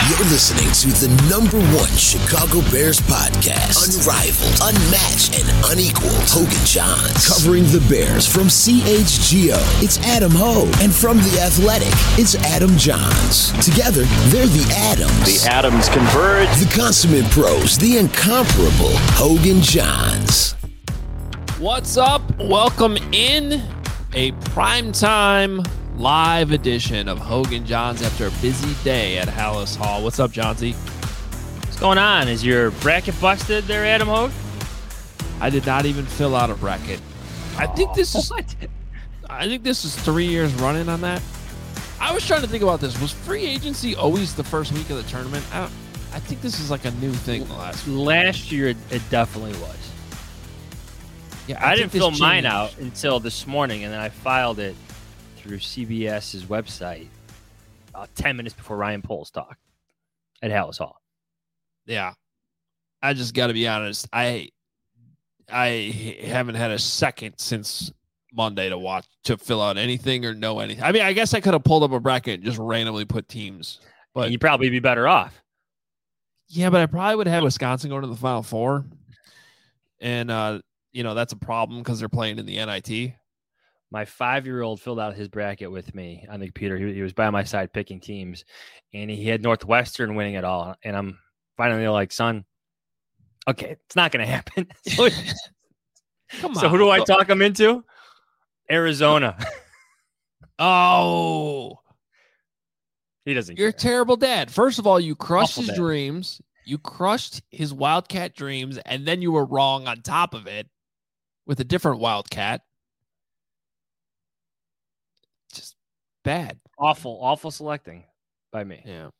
You're listening to the #1 Chicago Bears podcast. Unrivaled, unmatched, and unequaled. Hoge and Johns. Covering the Bears from CHGO, it's Adam Hoge. And from The Athletic, it's Adam Johns. Together, they're the Adams. The Adams converge. The consummate pros, the incomparable Hoge and Johns. What's up? Welcome in a primetime live edition of Hoge and Johns after a busy day at Halas Hall. What's up, Johnsy? What's going on? Is your bracket busted there, Adam Hoge? I did not even fill out a bracket. I think this is 3 years running on that. I was trying to think about this. Was free agency always the first week of the tournament? I think this is like a new thing the last year. It definitely was. Yeah, I didn't fill mine out until this morning, and then I filed it through CBS's website 10 minutes before Ryan Poles talked at Halas Hall. Yeah. I just got to be honest. I haven't had a second since Monday to fill out anything or know anything. I mean, I guess I could have pulled up a bracket and just randomly put teams. But and you'd probably be better off. Yeah, but I probably would have Wisconsin going to the Final Four. And, that's a problem because they're playing in the NIT. My 5-year-old filled out his bracket with me on the computer. He was by my side picking teams, and he had Northwestern winning it all. And I'm finally like, son, okay, it's not going to happen. Come on. So who do I talk him into? Arizona. Oh. He doesn't You're care. a terrible dad. First of all, you crushed Awful his dad. dreams. You crushed his Wildcat dreams, and then you were wrong on top of it with a different Wildcat. Just bad. Awful selecting by me. Yeah.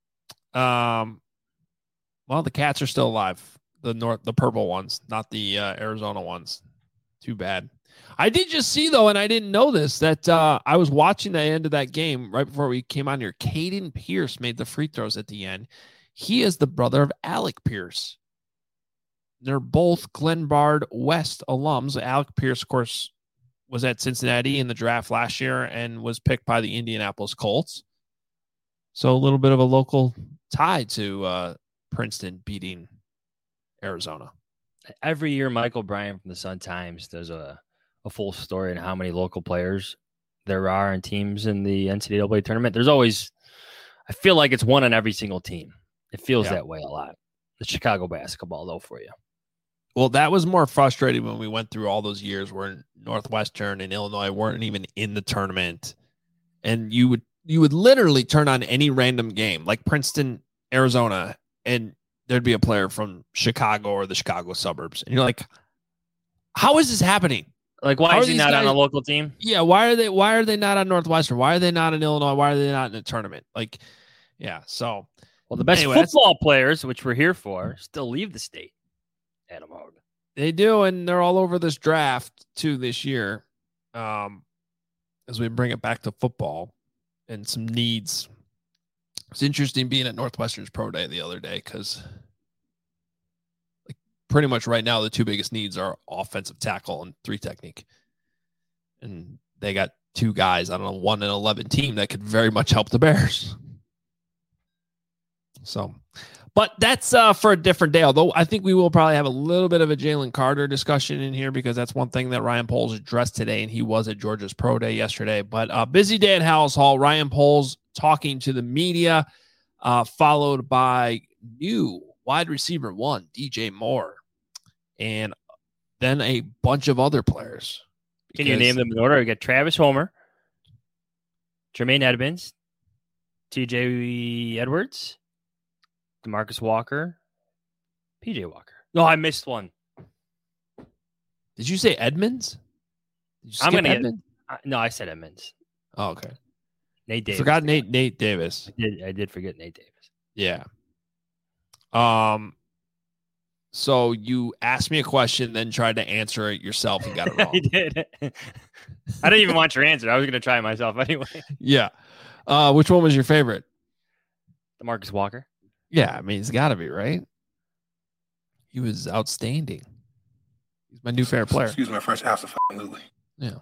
Well, the Cats are still alive. The purple ones, not the Arizona ones. Too bad. I did just see, though, and I didn't know this, that I was watching the end of that game right before we came on here. Caden Pierce made the free throws at the end. He is the brother of Alec Pierce. They're both Glenbard West alums. Alec Pierce, of course, was at Cincinnati in the draft last year and was picked by the Indianapolis Colts. So a little bit of a local tie to Princeton beating Arizona. Every year, Michael Bryan from the Sun-Times does a full story on how many local players there are and teams in the NCAA tournament. There's always, I feel like it's one on every single team. It feels that way a lot. The Chicago basketball, though, for you. Well, that was more frustrating when we went through all those years where Northwestern and Illinois weren't even in the tournament. And you would literally turn on any random game like Princeton, Arizona, and there'd be a player from Chicago or the Chicago suburbs. And you're like, how is this happening? Like, why is he not on a local team? Yeah, why are they not on Northwestern? Why are they not in Illinois? Why are they not in the tournament? Like, yeah, so well, the best football players, which we're here for, still leave the state. Adam Hoge. They do, and they're all over this draft too this year. As we bring it back to football and some needs. It's interesting being at Northwestern's Pro Day the other day because like pretty much right now the two biggest needs are offensive tackle and 3 technique. And they got 2 guys on a 1-11 team that could very much help the Bears. So, but that's for a different day. Although I think we will probably have a little bit of a Jalen Carter discussion in here because that's one thing that Ryan Poles addressed today, and he was at Georgia's Pro Day yesterday. But busy day at Halas Hall. Ryan Poles talking to the media, followed by new wide receiver 1, DJ Moore, and then a bunch of other players. Can you name them in order? We got Travis Homer, Jermaine Edmonds, TJ Edwards, DeMarcus Walker, PJ Walker. No, I missed one. Did you say Edmonds? I'm going to no, I said Edmonds. Oh, okay. Nate Davis. Forgot Nate Davis. I did forget Nate Davis. Yeah. So you asked me a question, then tried to answer it yourself and got it wrong. I did. I didn't even want your answer. I was going to try it myself anyway. Yeah. Which one was your favorite? DeMarcus Walker. Yeah, I mean, it's got to be, right? He was outstanding. He's my new favorite player. Excuse my French, absolutely. Yeah.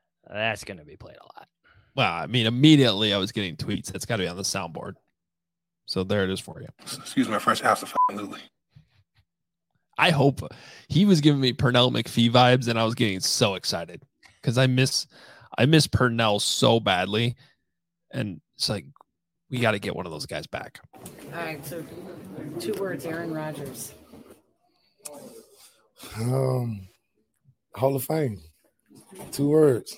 That's going to be played a lot. Well, I mean, immediately I was getting tweets. That's got to be on the soundboard. So there it is for you. Excuse my French, absolutely. I hope he was giving me Pernell McPhee vibes, and I was getting so excited because I miss Pernell so badly, and it's like we got to get one of those guys back. All right, so 2 words, Aaron Rodgers. Hall of Fame. 2 words.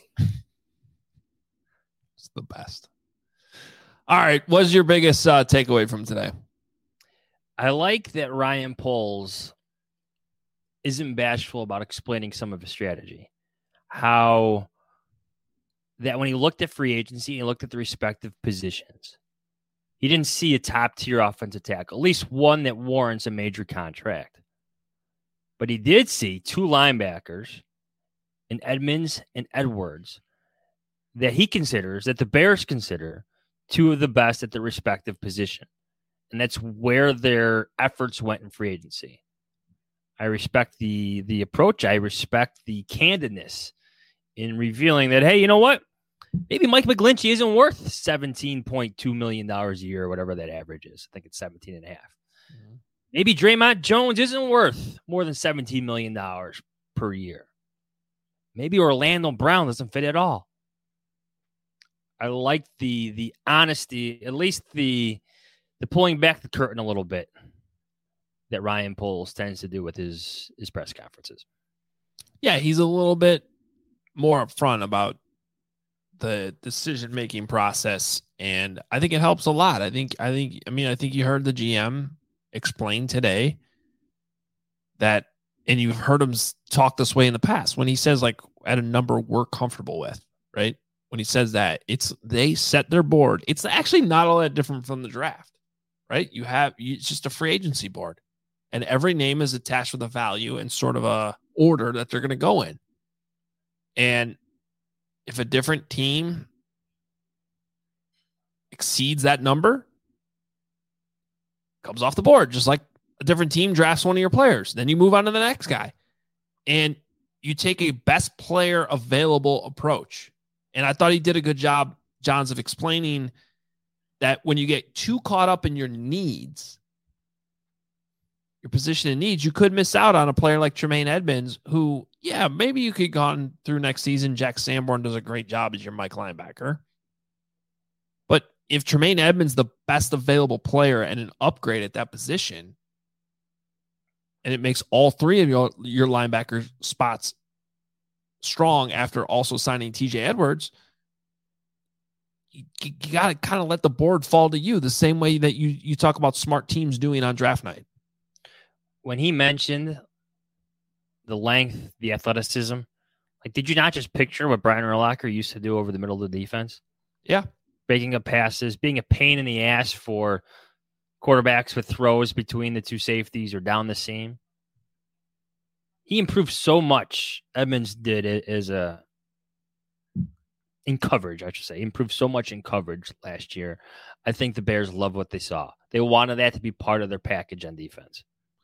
It's the best. All right, what's your biggest takeaway from today? I like that Ryan Poles isn't bashful about explaining some of his strategy. How that when he looked at free agency, he looked at the respective positions. He didn't see a top-tier offensive tackle, at least one that warrants a major contract. But he did see 2 linebackers in Edmonds and Edwards that he considers, that the Bears consider, 2 of the best at their respective position. And that's where their efforts went in free agency. I respect the approach. I respect the candidness in revealing that, hey, you know what? Maybe Mike McGlinchey isn't worth $17.2 million a year or whatever that average is. I think it's 17.5. Mm-hmm. Maybe Draymond Jones isn't worth more than $17 million per year. Maybe Orlando Brown doesn't fit at all. I like the honesty, at least the pulling back the curtain a little bit that Ryan Poles tends to do with his press conferences. Yeah, he's a little bit more upfront about the decision-making process, and I think it helps a lot. I think you heard the GM explain today that, and you've heard him talk this way in the past when he says, like, at a number we're comfortable with, right? When he says that, they set their board. It's actually not all that different from the draft, right? It's just a free agency board, and every name is attached with a value and sort of a order that they're going to go in. And if a different team exceeds that number, comes off the board, just like a different team drafts one of your players. Then you move on to the next guy. And you take a best player available approach. And I thought he did a good job, Johns, of explaining that when you get too caught up in your needs, your position in needs, you could miss out on a player like Tremaine Edmonds, who, yeah, maybe you could go on through next season. Jack Sanborn does a great job as your Mike linebacker. But if Tremaine Edmonds the best available player and an upgrade at that position, and it makes all 3 of your linebacker spots strong after also signing TJ Edwards, you got to kind of let the board fall to you the same way that you talk about smart teams doing on draft night. When he mentioned the length, the athleticism, like, did you not just picture what Brian Urlacher used to do over the middle of the defense? Yeah. Breaking up passes, being a pain in the ass for quarterbacks with throws between the 2 safeties or down the seam. He improved so much. Edmonds did it in coverage, I should say. He improved so much in coverage last year. I think the Bears love what they saw. They wanted that to be part of their package on defense.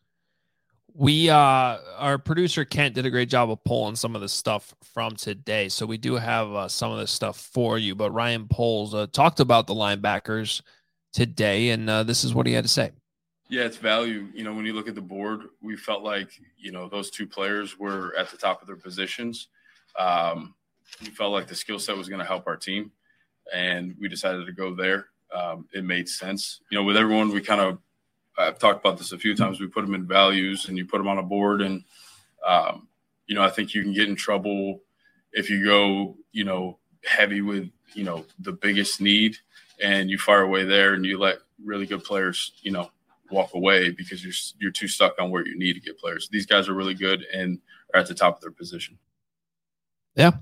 Our producer Kent did a great job of pulling some of the stuff from today. So we do have some of this stuff for you, but Ryan Poles talked about the linebackers today, and this is what he had to say. Yeah, it's value. When you look at the board, we felt like, those 2 players were at the top of their positions. We felt like the skill set was going to help our team, and we decided to go there. It made sense. With everyone, we kind of, I've talked about this a few times. We put them in values and you put them on a board. And, I think you can get in trouble if you go, heavy with, the biggest need and you fire away there and you let really good players, walk away because you're too stuck on where you need to get players. These guys are really good and are at the top of their position. Yeah.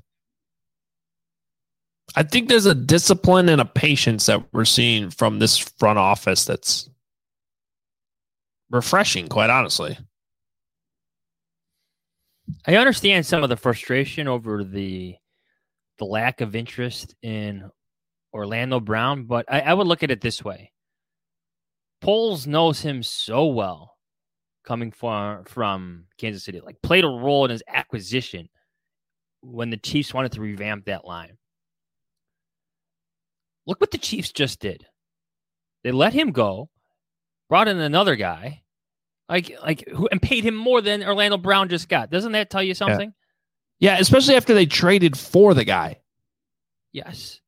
I think there's a discipline and a patience that we're seeing from this front office that's refreshing, quite honestly. I understand some of the frustration over the lack of interest in Orlando Brown, but I would look at it this way. Poles knows him so well coming from Kansas City, like played a role in his acquisition when the Chiefs wanted to revamp that line. Look what the Chiefs just did. They let him go, brought in another guy, and paid him more than Orlando Brown just got. Doesn't that tell you something? Yeah, especially after they traded for the guy. Yes.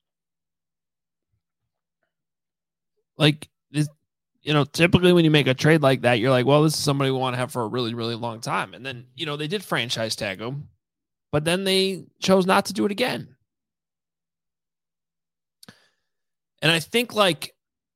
Like, typically when you make a trade like that, you're like, well, this is somebody we want to have for a really, really long time. And then, they did franchise tag him, but then they chose not to do it again. And I think, like,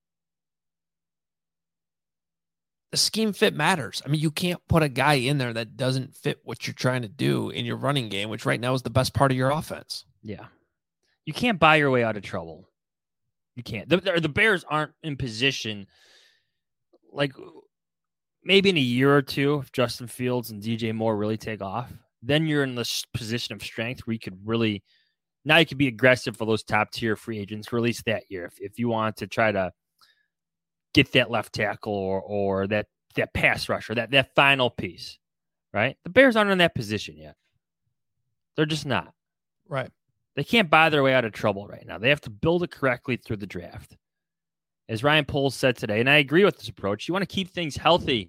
the scheme fit matters. I mean, you can't put a guy in there that doesn't fit what you're trying to do in your running game, which right now is the best part of your offense. Yeah. You can't buy your way out of trouble. You can't. The Bears aren't in position, like, maybe in a year or two, if Justin Fields and DJ Moore really take off, then you're in this position of strength where you could really, now you could be aggressive for those top tier free agents, or at least that year. If you want to try to get that left tackle or that pass rusher, that final piece, right? The Bears aren't in that position yet. They're just not. Right. They can't buy their way out of trouble right now. They have to build it correctly through the draft. As Ryan Poles said today, and I agree with this approach, you want to keep things healthy,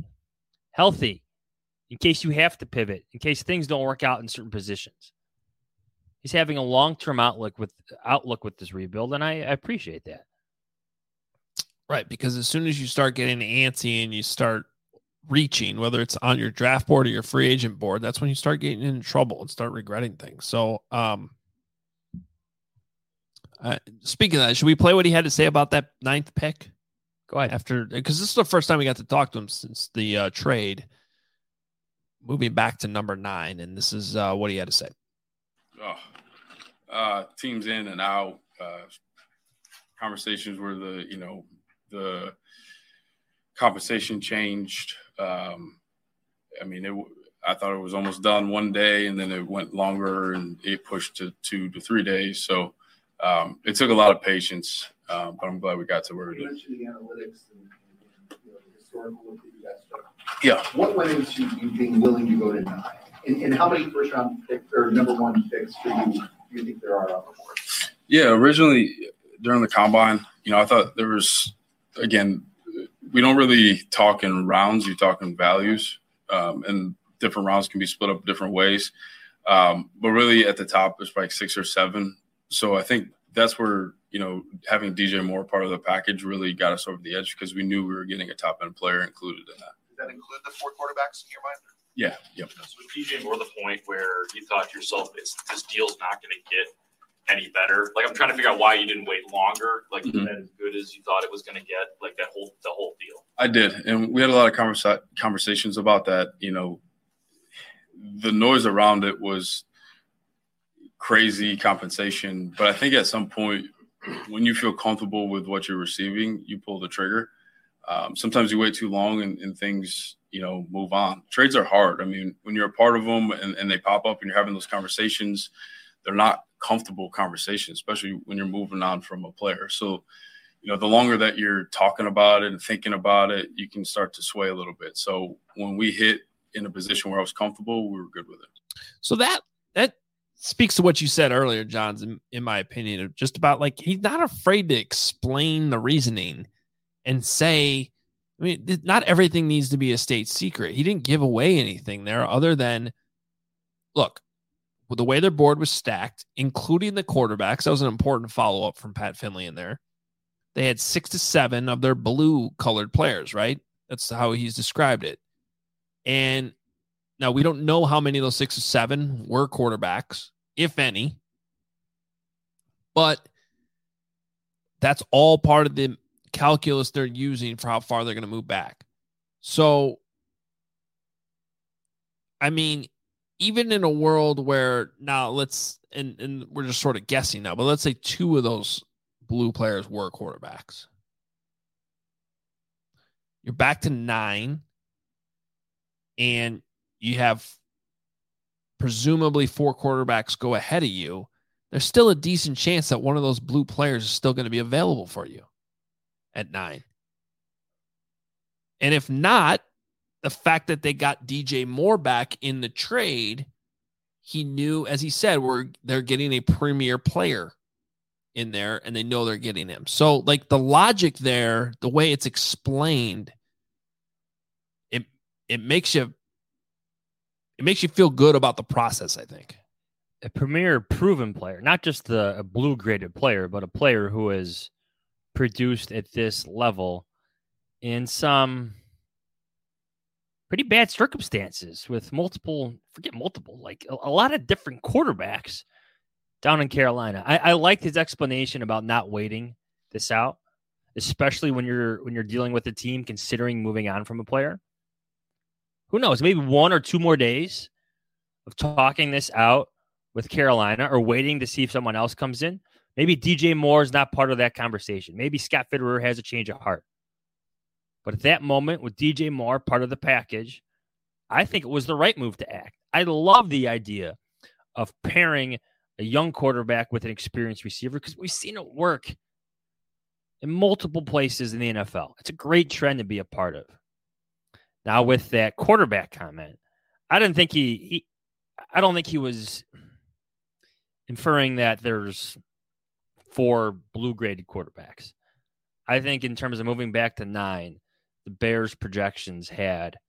in case you have to pivot, in case things don't work out in certain positions. He's having a long-term outlook with this rebuild, and I appreciate that. Right, because as soon as you start getting antsy and you start reaching, whether it's on your draft board or your free agent board, that's when you start getting into trouble and start regretting things. So, speaking of that, should we play what he had to say about that 9th pick? Go ahead. Because this is the first time we got to talk to him since the trade, moving back to number 9, and this is what he had to say. Teams in and out, conversations where the compensation changed. I thought it was almost done one day, and then it went longer, and it pushed to 2 to 3 days. So it took a lot of patience, but I'm glad we got to where we did. You mentioned the analytics and the historical look that you guys took. Yeah. What went into you being willing to go to 9? And how many first-round picks or number 1 picks do you think there are on the board? Yeah, originally during the combine, I thought there was, again, we don't really talk in rounds. You talk in values, and different rounds can be split up different ways. But really at the top, it's like 6 or 7. So I think that's where, having DJ Moore part of the package really got us over the edge because we knew we were getting a top-end player included in that. Does that include the 4 quarterbacks in your mind? Yeah, yep. So was DJ Moore the point where you thought to yourself, this deal's not going to get any better? Like, I'm trying to figure out why you didn't wait longer. Like, is that as good as you thought it was going to get? Like, the whole deal. I did, and we had a lot of conversations about that. The noise around it was crazy compensation, but I think at some point, when you feel comfortable with what you're receiving, you pull the trigger. Sometimes you wait too long and things, move on. Trades are hard. I mean, when you're a part of them and they pop up and you're having those conversations, they're not comfortable conversations, especially when you're moving on from a player. So, the longer that you're talking about it and thinking about it, you can start to sway a little bit. So when we hit in a position where I was comfortable, we were good with it. So that speaks to what you said earlier, Johns, in my opinion, of just about, like, he's not afraid to explain the reasoning and say, I mean, not everything needs to be a state secret. He didn't give away anything there other than, look, with the way their board was stacked, including the quarterbacks, that was an important follow-up from Pat Finley in there. They had 6 to 7 of their blue-colored players, right? That's how he's described it. And now we don't know how many of those 6 or 7 were quarterbacks, if any. But that's all part of the calculus they're using for how far they're going to move back. So, I mean, even in a world where now and we're just sort of guessing now, but let's say 2 of those blue players were quarterbacks. You're back to 9, and you have presumably 4 quarterbacks go ahead of you. There's still a decent chance that one of those blue players is still going to be available for you at 9. And if not, the fact that they got DJ Moore back in the trade, he knew, as he said, they're getting a premier player in there and they know they're getting him. So like the logic there, the way it's explained, it makes you feel good about the process, I think. A premier proven player, not just a blue graded player, but a player who has produced at this level in some pretty bad circumstances with like a lot of different quarterbacks down in Carolina. I liked his explanation about not waiting this out, especially when you're dealing with a team considering moving on from a player. Who knows? Maybe 1 or 2 more days of talking this out with Carolina or waiting to see if someone else comes in. Maybe DJ Moore is not part of that conversation. Maybe Scott Fitterer has a change of heart. But at that moment, with DJ Moore part of the package, I think it was the right move to act. I love the idea of pairing a young quarterback with an experienced receiver because we've seen it work in multiple places in the NFL. It's a great trend to be a part of. Now, with that quarterback comment, I don't think he was inferring that there's 4 blue graded quarterbacks. I think in terms of moving back to 9, the Bears projections had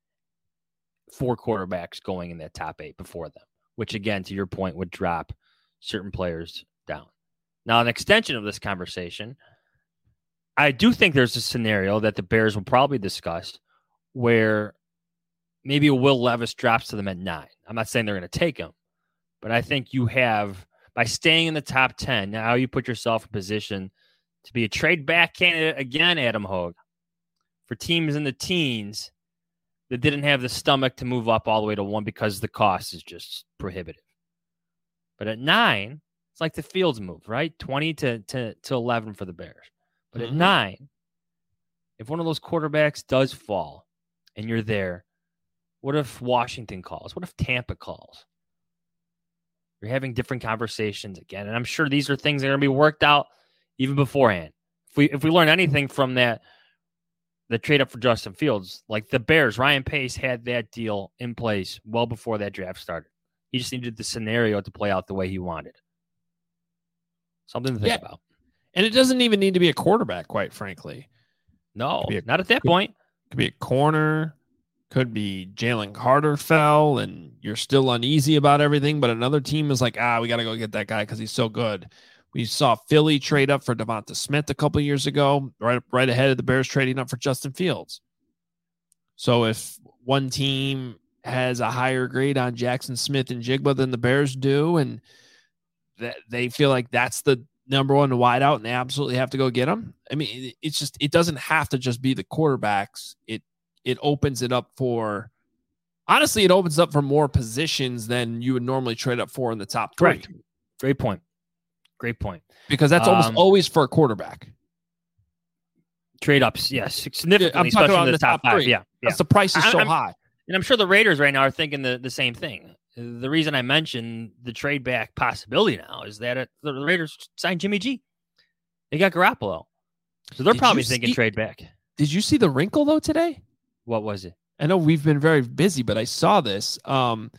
4 quarterbacks going in that top 8 before them, which again, to your point, would drop certain players down. Now, an extension of this conversation, I do think there's a scenario that the Bears will probably discuss where maybe a Will Levis drops to them at 9. I'm not saying they're going to take him, but I think you have, by staying in the top 10, now you put yourself in position to be a trade back candidate again, Adam Hogue, for teams in the teens that didn't have the stomach to move up all the way to 1 because the cost is just prohibitive. But at 9, it's like the Fields move, right? 20 to 11 for the Bears. But at 9, if one of those quarterbacks does fall and you're there, what if Washington calls? What if Tampa calls? You're having different conversations again. And I'm sure these are things that are going to be worked out even beforehand. If we learn anything from that, the trade up for Justin Fields, like the Bears, Ryan Pace had that deal in place well before that draft started. He just needed the scenario to play out the way he wanted. Something to think about. And it doesn't even need to be a quarterback, quite frankly. No, not at that point. Could be a corner. Could be Jalen Carter fell and you're still uneasy about everything, but another team is like, we got to go get that guy because he's so good. We saw Philly trade up for Devonta Smith a couple of years ago, right ahead of the Bears trading up for Justin Fields. So if one team has a higher grade on Jackson Smith and Jigba than the Bears do, and that they feel like that's the number 1 wideout and they absolutely have to go get him. I mean, it doesn't have to just be the quarterbacks. It opens it up for, honestly, it opens up for more positions than you would normally trade up for in the top 3. Correct. Great point. Because that's almost always for a quarterback. Trade ups, yes, significantly. I'm talking about in the top 3. Yeah. That's the price is so high. And I'm sure the Raiders right now are thinking the same thing. The reason I mentioned the trade back possibility now is that the Raiders signed Jimmy G. They got Garoppolo. So they're probably thinking trade back. Did you see the wrinkle, though, today? What was it? I know we've been very busy, but I saw this. I'm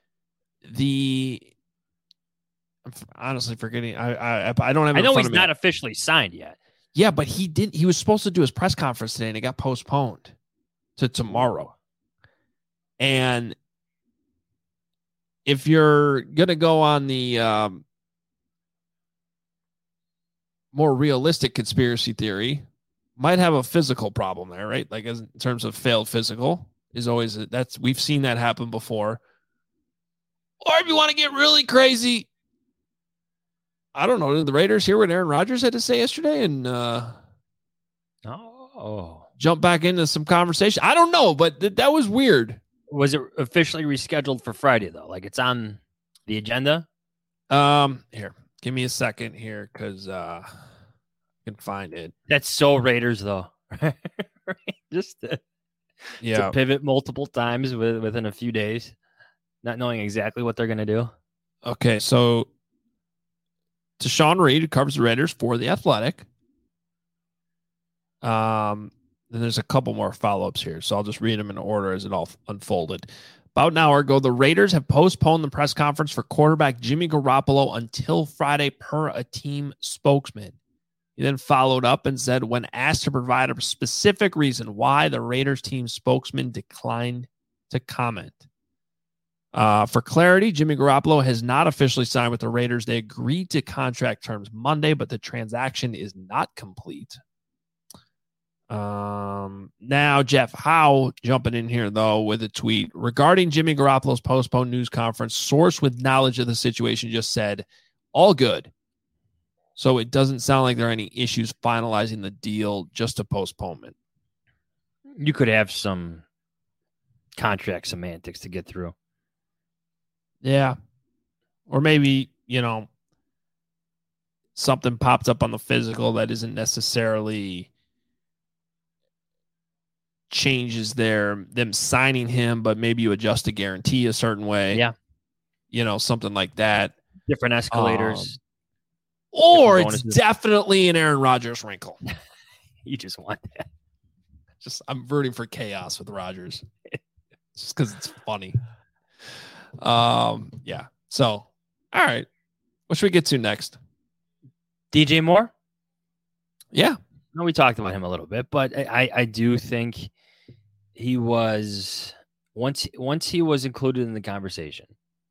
honestly forgetting. I don't have. I know he's not officially signed yet. Yeah, but he didn't. He was supposed to do his press conference today, and it got postponed to tomorrow. And if you're gonna go on the more realistic conspiracy theory, might have a physical problem there, right? Like in terms of failed physical is always we've seen that happen before. Or if you want to get really crazy, I don't know. Did the Raiders hear what Aaron Rodgers had to say yesterday and jump back into some conversation? I don't know, but that was weird. Was it officially rescheduled for Friday though? Like it's on the agenda? Here, give me a second here because I can find it. That's so Raiders though. Just to pivot multiple times within a few days, not knowing exactly what they're going to do. Okay, so Tashawn Reed covers the Raiders for The Athletic. Then there's a couple more follow-ups here, so I'll just read them in order as it all unfolded. About an hour ago, the Raiders have postponed the press conference for quarterback Jimmy Garoppolo until Friday per a team spokesman. He then followed up and said when asked to provide a specific reason why the Raiders team spokesman declined to comment. For clarity, Jimmy Garoppolo has not officially signed with the Raiders. They agreed to contract terms Monday, but the transaction is not complete. Now, Jeff Howe jumping in here, though, with a tweet regarding Jimmy Garoppolo's postponed news conference. Source with knowledge of the situation just said, all good. So it doesn't sound like there are any issues finalizing the deal, just a postponement. You could have some contract semantics to get through. Yeah. Or maybe, something popped up on the physical that isn't necessarily changes them signing him, but maybe you adjust a guarantee a certain way. Yeah. Something like that. Different escalators. Or it's definitely an Aaron Rodgers wrinkle. You just want that. I'm rooting for chaos with Rodgers. Just because it's funny. Yeah. So, all right. What should we get to next? DJ Moore? Yeah. No, we talked about him a little bit, but I do think he was once he was included in the conversation.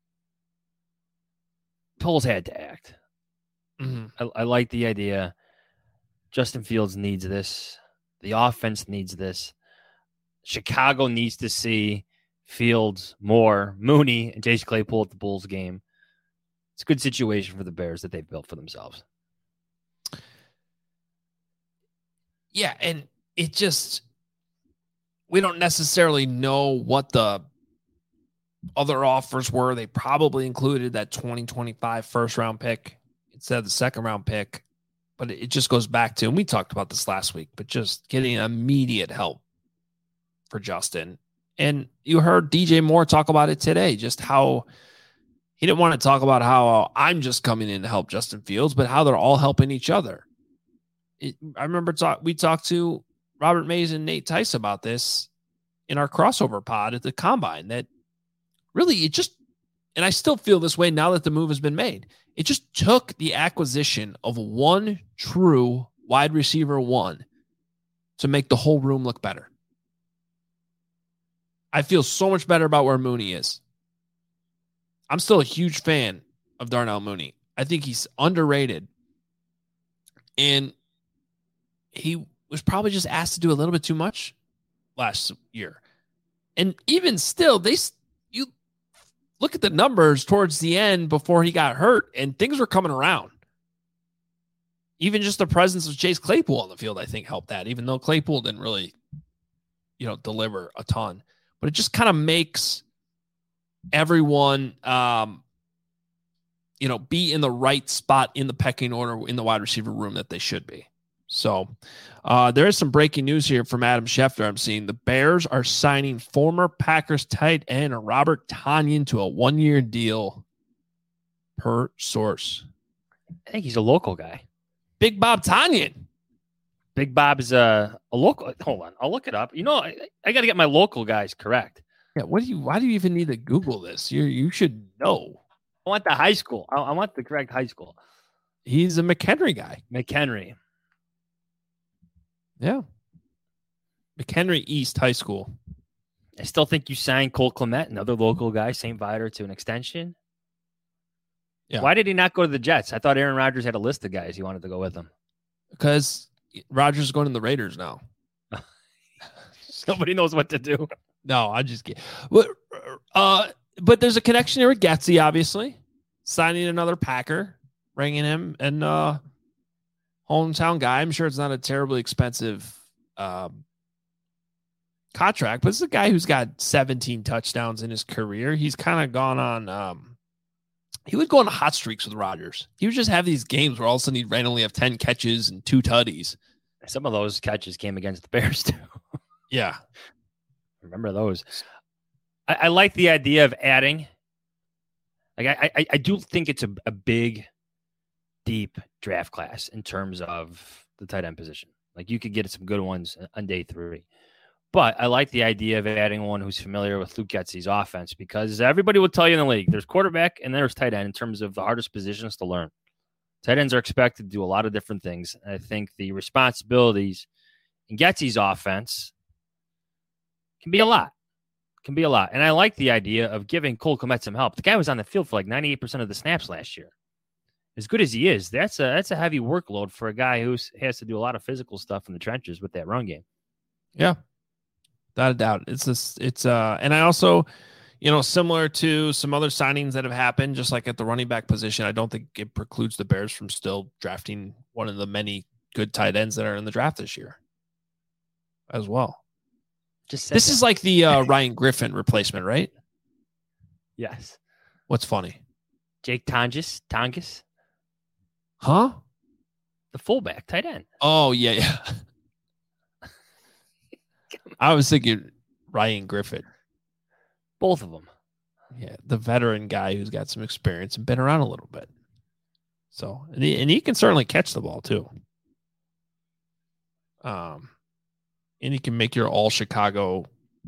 Poles had to act. Mm-hmm. I like the idea. Justin Fields needs this. The offense needs this. Chicago needs to see Fields, Moore, Mooney, and Chase Claypool at the Bulls game. It's a good situation for the Bears that they've built for themselves. Yeah, and it just, we don't necessarily know what the other offers were. They probably included that 2025 first-round pick instead of the second-round pick. But it just goes back to, and we talked about this last week, but just getting immediate help for Justin. And you heard DJ Moore talk about it today, just how he didn't want to talk about how I'm just coming in to help Justin Fields, but how they're all helping each other. I remember we talked to Robert Mays and Nate Tice about this in our crossover pod at the Combine, that really it just, and I still feel this way now that the move has been made, it just took the acquisition of one true wide receiver one to make the whole room look better. I feel so much better about where Mooney is. I'm still a huge fan of Darnell Mooney. I think he's underrated. And he was probably just asked to do a little bit too much last year. And even still, you look at the numbers towards the end before he got hurt, and things were coming around. Even just the presence of Chase Claypool on the field, I think, helped that, even though Claypool didn't really, deliver a ton. But it just kind of makes everyone, be in the right spot in the pecking order in the wide receiver room that they should be. So there is some breaking news here from Adam Schefter. I'm seeing the Bears are signing former Packers tight end Robert Tonyan to a 1-year deal per source. I think he's a local guy. Big Bob Tonyan. Big Bob is a local. Hold on. I'll look it up. I got to get my local guys correct. Yeah. Why do you even need to Google this? You should know. I want the high school. I want the correct high school. He's a McHenry guy. McHenry. Yeah. McHenry East High School. I still think you signed Cole Clement, another local guy, St. Viator, to an extension. Yeah. Why did he not go to the Jets? I thought Aaron Rodgers had a list of guys he wanted to go with him. Because Rodgers is going to the Raiders now. Nobody knows what to do. No, I just get. But there's a connection here with Getsy, obviously. Signing another Packer, bringing him, and hometown guy. I'm sure it's not a terribly expensive contract, but it's a guy who's got 17 touchdowns in his career. He's kind of gone on. He would go on hot streaks with Rodgers. He would just have these games where all of a sudden he'd randomly have 10 catches and 2 tutties. Some of those catches came against the Bears too. Yeah. Remember those. I like the idea of adding. Like I do think it's a big, deep draft class in terms of the tight end position. Like you could get some good ones on day 3. But I like the idea of adding one who's familiar with Luke Getsy's offense, because everybody will tell you in the league, there's quarterback and there's tight end in terms of the hardest positions to learn. Tight ends are expected to do a lot of different things. And I think the responsibilities in Getsy's offense can be a lot. And I like the idea of giving Cole Kmet some help. The guy was on the field for like 98% of the snaps last year. As good as he is, that's a heavy workload for a guy who has to do a lot of physical stuff in the trenches with that run game. Yeah. Without a doubt. And I also, similar to some other signings that have happened, just like at the running back position, I don't think it precludes the Bears from still drafting one of the many good tight ends that are in the draft this year as well. This is like the Ryan Griffin replacement, right? Yes. What's funny? Jake Tongas. Huh? The fullback, tight end. Oh, yeah. I was thinking Ryan Griffin. Both of them. Yeah, the veteran guy who's got some experience and been around a little bit. So, and he can certainly catch the ball too. And he can make your all Chicago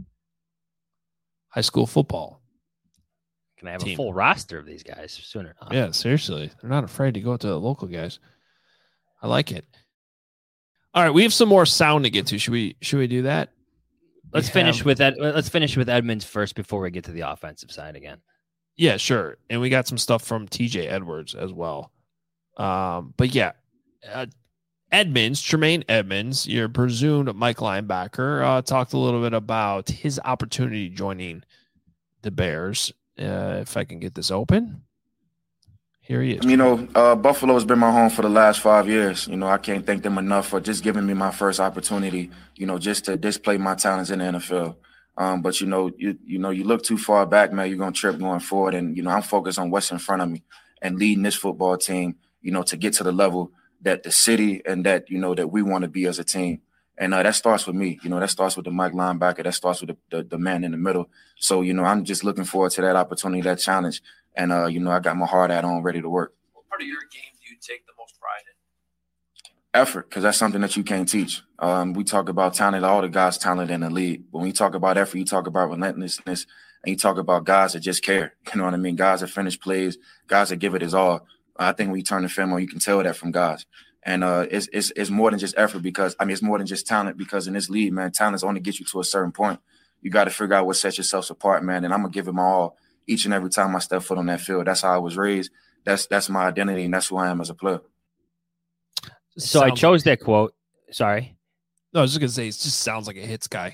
high school football. Can I have a full roster of these guys sooner? Yeah, seriously. They're not afraid to go to the local guys. I like it. All right, we have some more sound to get to. Should we do that? Let's finish with that. Let's finish with Edmonds first before we get to the offensive side again. Yeah, sure. And we got some stuff from TJ Edwards as well. But yeah, Tremaine Edmonds, your presumed Mike linebacker, talked a little bit about his opportunity joining the Bears. If I can get this open. Here he is. Buffalo has been my home for the last 5 years. I can't thank them enough for just giving me my first opportunity, just to display my talents in the NFL. But you look too far back, man, you're going to trip going forward. And, I'm focused on what's in front of me and leading this football team, to get to the level that the city and that, that we want to be as a team. And that starts with me, that starts with the Mike linebacker, that starts with the man in the middle. So, I'm just looking forward to that opportunity, that challenge. And, I got my hard hat on, ready to work. What part of your game do you take the most pride in? Effort, because that's something that you can't teach. We talk about talent, all the guys talented in the league. But when you talk about effort, you talk about relentlessness, and you talk about guys that just care. You know what I mean? Guys that finish plays, guys that give it his all. I think when you turn the film on, you can tell that from guys. And it's more than just effort it's more than just talent, because in this league, man, talents only get you to a certain point. You got to figure out what sets yourself apart, man. And I'm going to give it my all each and every time I step foot on that field. That's how I was raised. That's my identity, and that's who I am as a player. So I chose that quote. Sorry. No, I was just going to say, it just sounds like a hits guy.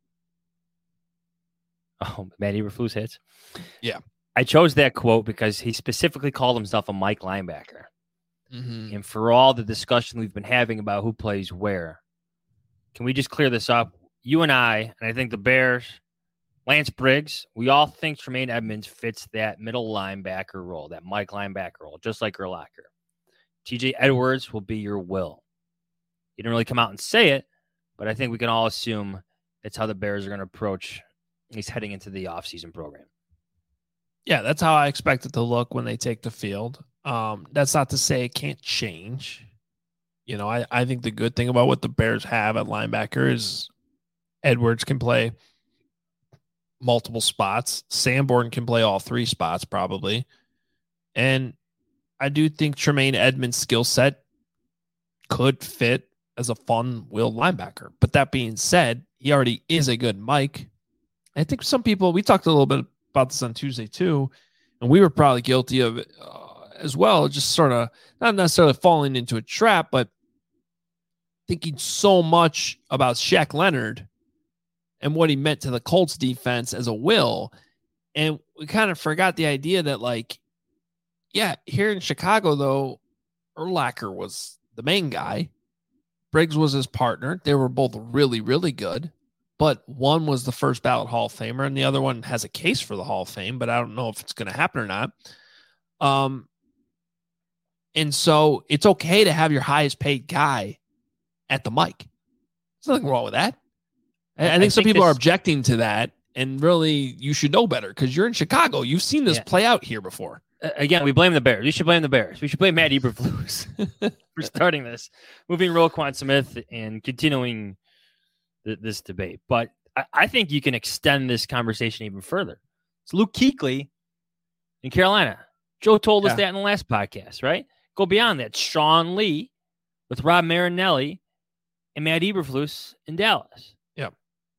Oh, Matt Eberflus hits? Yeah. I chose that quote because he specifically called himself a Mike linebacker. Mm-hmm. And for all the discussion we've been having about who plays where, can we just clear this up? You and I think the Bears, Lance Briggs, we all think Tremaine Edmonds fits that middle linebacker role, that Mike linebacker role, just like Urlacher. TJ Edwards will be your will. He didn't really come out and say it, but I think we can all assume it's how the Bears are going to approach he's heading into the offseason program. Yeah, that's how I expect it to look when they take the field. That's not to say it can't change. I think the good thing about what the Bears have at linebacker is Edwards can play multiple spots. Sanborn can play all three spots probably. And I do think Tremaine Edmonds' skill set could fit as a fun will linebacker. But that being said, he already is a good Mike. I think some people, we talked a little bit about this on Tuesday too, and we were probably guilty of it as well, just sort of not necessarily falling into a trap, but thinking so much about Shaq Leonard and what he meant to the Colts defense as a will. And we kind of forgot the idea that, here in Chicago, though, Urlacher was the main guy. Briggs was his partner. They were both really, really good. But one was the first ballot Hall of Famer, and the other one has a case for the Hall of Fame, but I don't know if it's going to happen or not. And so it's okay to have your highest paid guy at the mic. There's nothing wrong with that. I think some people are objecting to that, and really you should know better because you're in Chicago. You've seen this play out here before. Again, we blame the Bears. We should blame the Bears. We should blame Matt Eberflus for starting this. Moving Roquan Smith and continuing this debate. But I think you can extend this conversation even further. It's Luke Kuechly in Carolina. Joe told us that in the last podcast, right? Go beyond that. Sean Lee with Rob Marinelli and Matt Eberflus in Dallas. Yep.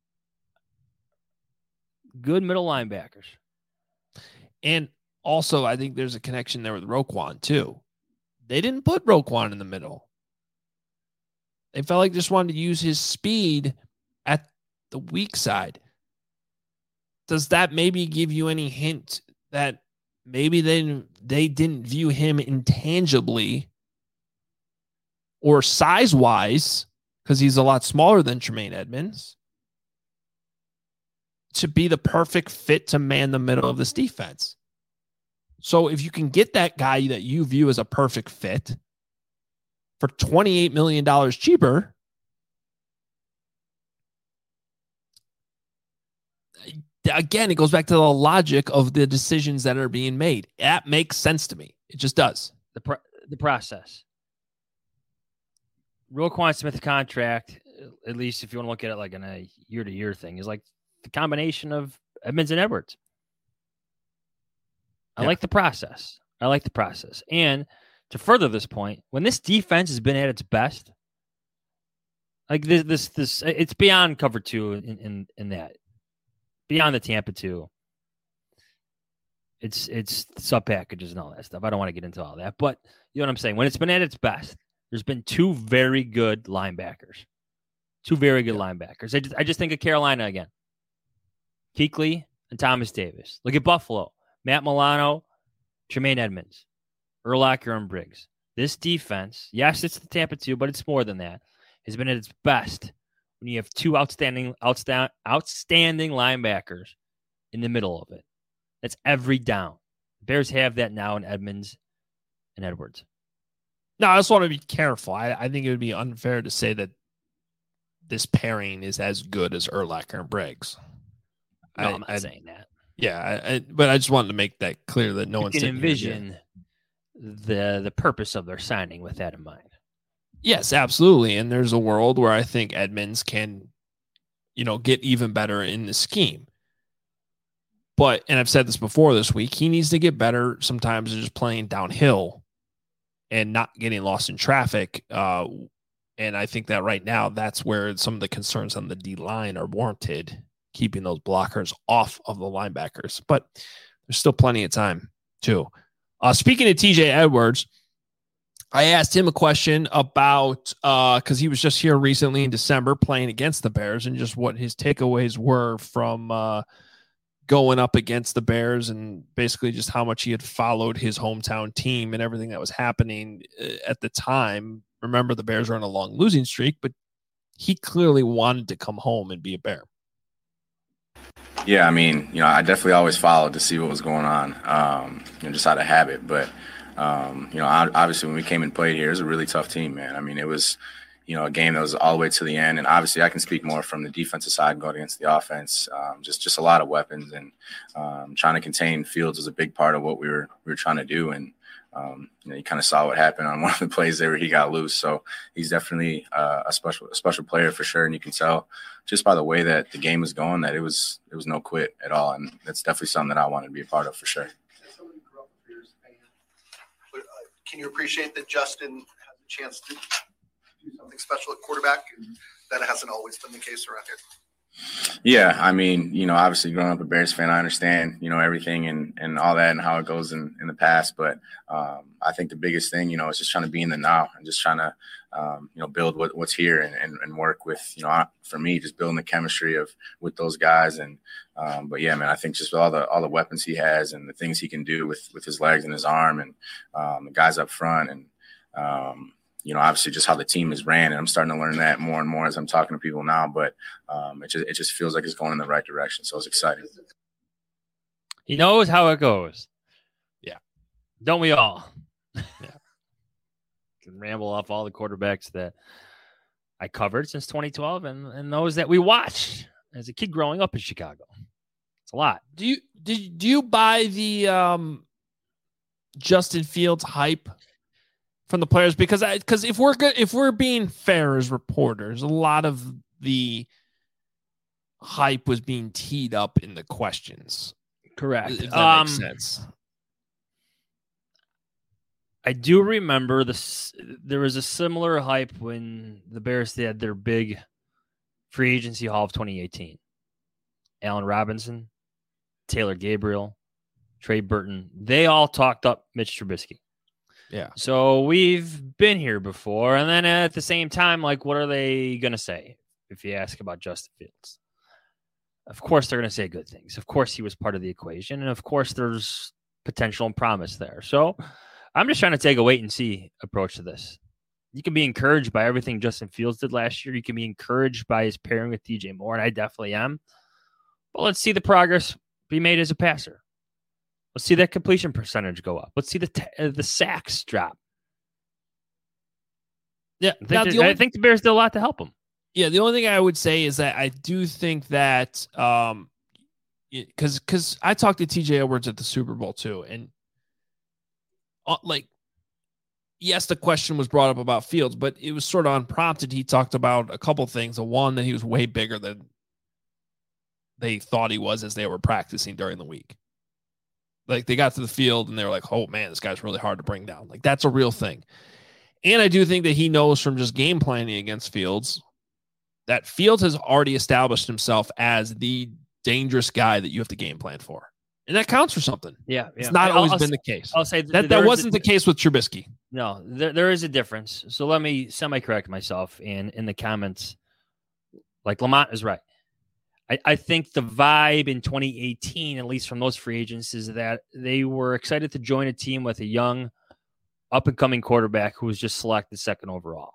Good middle linebackers. And also, I think there's a connection there with Roquan, too. They didn't put Roquan in the middle. They felt like they just wanted to use his speed at the weak side. Does that maybe give you any hint that maybe they didn't view him intangibly or size-wise, because he's a lot smaller than Tremaine Edmunds, to be the perfect fit to man the middle of this defense? So if you can get that guy that you view as a perfect fit for $28 million cheaper, again, it goes back to the logic of the decisions that are being made. That makes sense to me. It just does. The process. Roquan Smith contract, at least if you want to look at it like in a year-to-year thing, is like the combination of Edmunds and Edwards. I like the process. And to further this point, when this defense has been at its best, like this, it's beyond cover two in that. Beyond the Tampa 2, it's sub packages and all that stuff. I don't want to get into all that, but you know what I'm saying. When it's been at its best, there's been two very good linebackers. I just think of Carolina again. Kuechly and Thomas Davis. Look at Buffalo. Matt Milano, Tremaine Edmunds, Urlacher and Briggs. This defense, yes, it's the Tampa 2, but it's more than that, has been at its best when you have two outstanding linebackers in the middle of it. That's every down. Bears have that now in Edmunds and Edwards. No, I just want to be careful. I think it would be unfair to say that this pairing is as good as Urlacher and Briggs. No, I'm not saying that. Yeah, but I just wanted to make that clear that no one can envision the purpose of their signing with that in mind. Yes, absolutely. And there's a world where I think Edmunds can, get even better in the scheme. But, and I've said this before this week, he needs to get better sometimes just playing downhill and not getting lost in traffic. And I think that right now, that's where some of the concerns on the D-line are warranted, keeping those blockers off of the linebackers. But there's still plenty of time, too. Speaking of TJ Edwards, I asked him a question about, because he was just here recently in December playing against the Bears, and just what his takeaways were from going up against the Bears, and basically just how much he had followed his hometown team and everything that was happening at the time. Remember, the Bears were on a long losing streak, but he clearly wanted to come home and be a Bear. Yeah, I mean, I definitely always followed to see what was going on, just out of habit. But, obviously when we came and played here, it was a really tough team, man. I mean, it was, a game that was all the way to the end. And obviously I can speak more from the defensive side going against the offense. Just a lot of weapons, and trying to contain Fields was a big part of what we were trying to do. And, you kind of saw what happened on one of the plays there where he got loose. So he's definitely a special player for sure. And you can tell just by the way that the game was going that it was no quit at all. And that's definitely something that I wanted to be a part of for sure. Can you appreciate that Justin has a chance to do something special at quarterback, and that hasn't always been the case around here? Yeah, I mean, obviously growing up a Bears fan, I understand, everything and all that and how it goes in the past. But I think the biggest thing, is just trying to be in the now and just trying to, build what's here and work with, for me, just building the chemistry with those guys. And but yeah, man, I think just all the weapons he has and the things he can do with his legs and his arm, and the guys up front, and obviously just how the team is ran. And I'm starting to learn that more and more as I'm talking to people now. But it just feels like it's going in the right direction. So it's exciting. He knows how it goes. Yeah. Don't we all? Yeah. Can ramble off all the quarterbacks that I covered since 2012 and those that we watched as a kid growing up in Chicago. It's a lot. Do you buy the Justin Fields hype from the players? Because if we're being fair as reporters, a lot of the hype was being teed up in the questions. Correct. If that makes sense. I do remember this. There was a similar hype when the Bears had their big free agency haul of 2018. Allen Robinson, Taylor Gabriel, Trey Burton, they all talked up Mitch Trubisky. Yeah. So we've been here before. And then at the same time, like, what are they going to say if you ask about Justin Fields? Of course, they're going to say good things. Of course, he was part of the equation. And of course, there's potential and promise there. So I'm just trying to take a wait and see approach to this. You can be encouraged by everything Justin Fields did last year. You can be encouraged by his pairing with DJ Moore, and I definitely am. But let's see the progress be made as a passer. Let's see that completion percentage go up. Let's see the sacks drop. Yeah, I think the Bears did a lot to help him. Yeah, the only thing I would say is that I do think that because I talked to TJ Edwards at the Super Bowl too, and yes, the question was brought up about Fields, but it was sort of unprompted. He talked about a couple things. One, that he was way bigger than they thought he was as they were practicing during the week. Like, they got to the field and they were like, oh man, this guy's really hard to bring down. Like, that's a real thing. And I do think that he knows from just game planning against Fields that Fields has already established himself as the dangerous guy that you have to game plan for. And that counts for something. Yeah. It's not always been the case. I'll say that wasn't the case with Trubisky. No, there is a difference. So let me semi-correct myself. And in the comments, like, Lamont is right. I think the vibe in 2018, at least from those free agents, is that they were excited to join a team with a young, up-and-coming quarterback who was just selected second overall.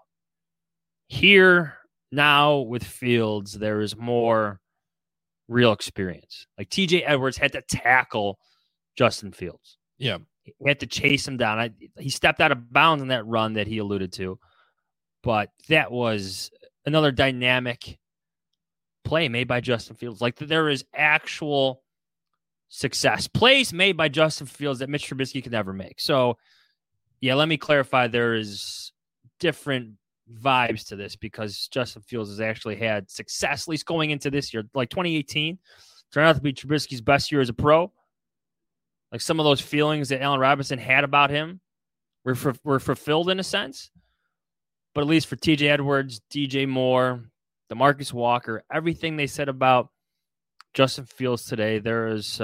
Here, now, with Fields, there is more real experience. Like, TJ Edwards had to tackle Justin Fields. Yeah. He had to chase him down. He stepped out of bounds in that run that he alluded to. But that was another dynamic play made by Justin Fields. Like, there is actual success. Plays made by Justin Fields that Mitch Trubisky could never make. So, yeah, let me clarify. There is different vibes to this because Justin Fields has actually had success, at least going into this year. Like 2018, turned out to be Trubisky's best year as a pro. Like, some of those feelings that Allen Robinson had about him were fulfilled in a sense. But at least for TJ Edwards, DJ Moore, DeMarcus Walker, everything they said about Justin Fields today, there is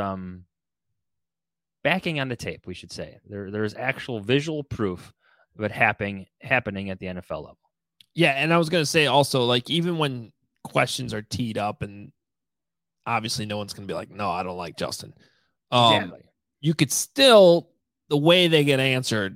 backing on the tape, we should say. There is actual visual proof of it happening at the NFL level. Yeah, and I was going to say also, like, even when questions are teed up, and obviously no one's going to be like, no, I don't like Justin. Exactly. You could still, the way they get answered,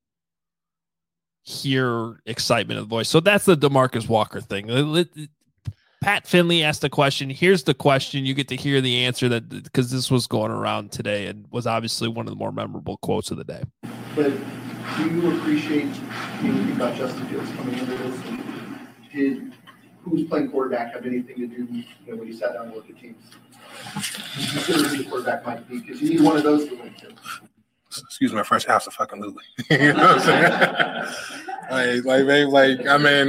hear excitement of the voice. So that's the DeMarcus Walker thing. Pat Finley asked the question. Here's the question. You get to hear the answer because this was going around today and was obviously one of the more memorable quotes of the day. But do you appreciate thinking about Justin Fields coming into this? Did who's playing quarterback have anything to do when you sat down and looked at teams? Consider who the quarterback might be because you need one of those to win too. Excuse my French, absolutely. You know what I'm saying?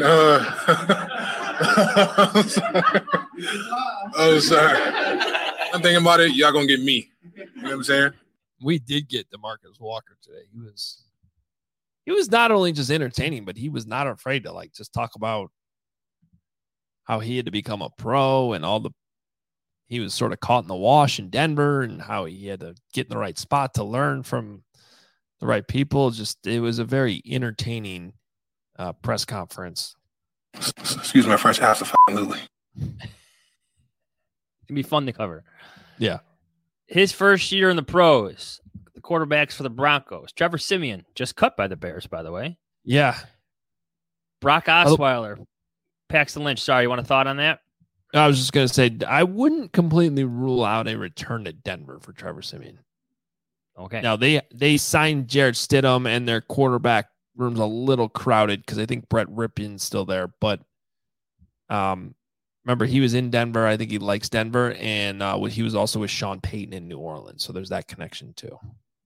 I'm sorry. I'm thinking about it. Y'all gonna get me. You know what I'm saying? We did get DeMarcus Walker today. He was not only just entertaining, but he was not afraid to just talk about how he had to become a pro and he was sort of caught in the wash in Denver and how he had to get in the right spot to learn from the right people. It was a very entertaining press conference. Excuse my French, absolutely. It's going to be fun to cover. Yeah. His first year in the pros, the quarterbacks for the Broncos. Trevor Siemian, just cut by the Bears, by the way. Yeah. Brock Osweiler. Paxton Lynch, sorry, you want a thought on that? I was just going to say, I wouldn't completely rule out a return to Denver for Trevor Siemian. Okay. Now, they signed Jarrett Stidham, and their quarterback room's a little crowded because I think Brett Rypien's still there. But remember, he was in Denver. I think he likes Denver, and he was also with Sean Payton in New Orleans. So there's that connection, too.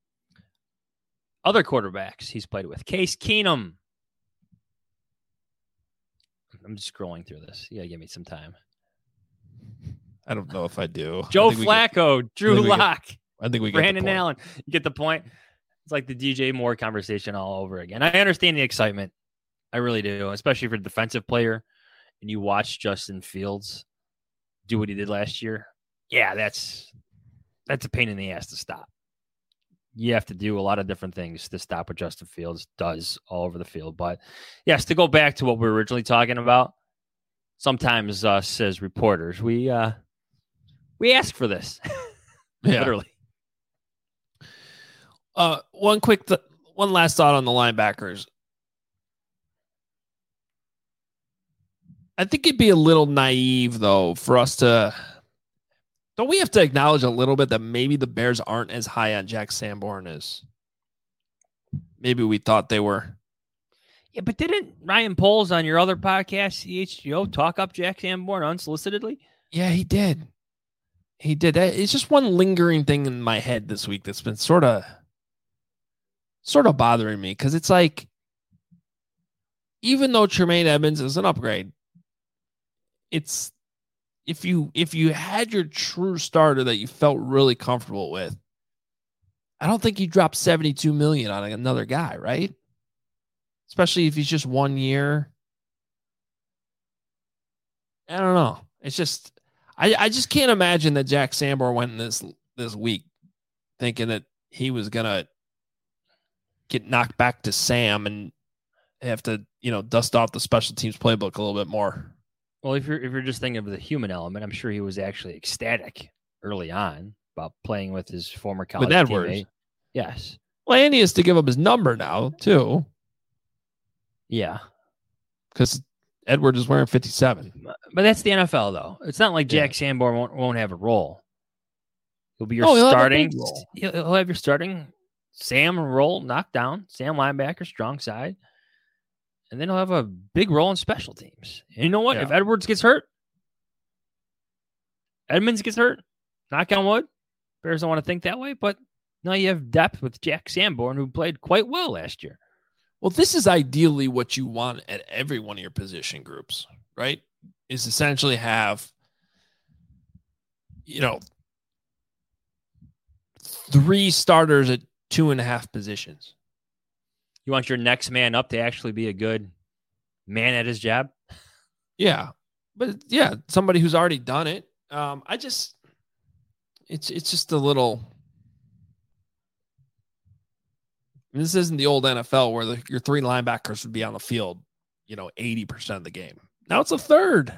Other quarterbacks he's played with. Case Keenum. I'm just scrolling through this. You got to give me some time. I don't know if I do. Joe Flacco, Drew Lock. I think we get Brandon Allen. You get the point. It's like the DJ Moore conversation all over again. I understand the excitement. I really do, especially for a defensive player. And you watch Justin Fields do what he did last year. Yeah, that's a pain in the ass to stop. You have to do a lot of different things to stop what Justin Fields does all over the field. But yes, to go back to what we were originally talking about, sometimes us as reporters, we ask for this. Literally. One last thought on the linebackers. I think it'd be a little naive, though, for us to... Don't we have to acknowledge a little bit that maybe the Bears aren't as high on Jack Sanborn as maybe we thought they were? Yeah, but didn't Ryan Poles on your other podcast, CHGO, talk up Jack Sanborn unsolicitedly? Yeah, he did. He did. It's just one lingering thing in my head this week that's been sort of bothering me, because it's like, even though Tremaine Edmunds is an upgrade, it's if you had your true starter that you felt really comfortable with, I don't think you drop $72 million on another guy, right? Especially if he's just 1 year. I don't know. It's just I just can't imagine that Jack Sanborn went in this week thinking that he was gonna get knocked back to Sam and have to, dust off the special teams playbook a little bit more. Well, if you're just thinking of the human element, I'm sure he was actually ecstatic early on about playing with his former college with Edwards. Teammate. Yes. Well, and he has to give up his number now, too. Yeah. Because Edwards is wearing 57. But that's the NFL, though. It's not like Jack Sanborn won't have a role. He'll be your he'll starting. Have he'll have your starting Sam role knocked down. Sam linebacker, strong side. And then he'll have a big role in special teams. And you know what? Yeah. If Edwards gets hurt, Edmunds gets hurt, knock on wood. Bears don't want to think that way, but now you have depth with Jack Sanborn, who played quite well last year. Well, this is ideally what you want at every one of your position groups, right? Is essentially have, 3 starters at 2.5 positions. You want your next man up to actually be a good man at his job? Yeah. But yeah, somebody who's already done it. It's just a little. This isn't the old NFL where your 3 linebackers would be on the field, 80% of the game. Now it's a third.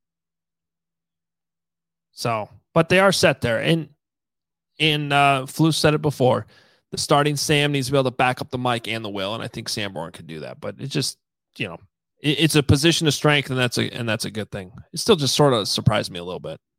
So, but they are set there. And Flu said it before. The starting Sam needs to be able to back up the mic and the will, and I think Sanborn can do that. But it's just, it's a position of strength, and that's a good thing. It still just sort of surprised me a little bit.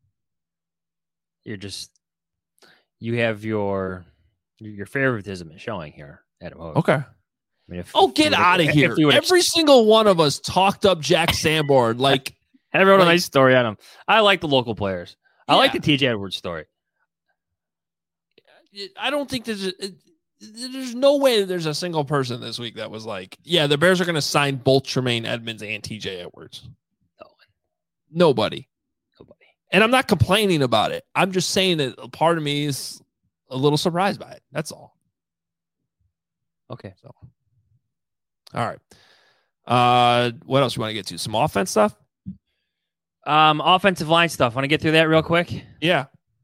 You have your favoritism is showing here, Adam Hogue. Okay. I mean, get out of here! Every single one of us talked up Jack Sanborn. Like, I wrote a nice story on him. I like the local players. I like the TJ Edwards story. I don't think there's no way that there's a single person this week that was like, yeah, the Bears are going to sign both Tremaine Edmunds and TJ Edwards. Nobody. And I'm not complaining about it. I'm just saying that a part of me is a little surprised by it. That's all. Okay. So, all right. What else you want to get to? Some offense stuff? Offensive line stuff. Want to get through that real quick? Yeah.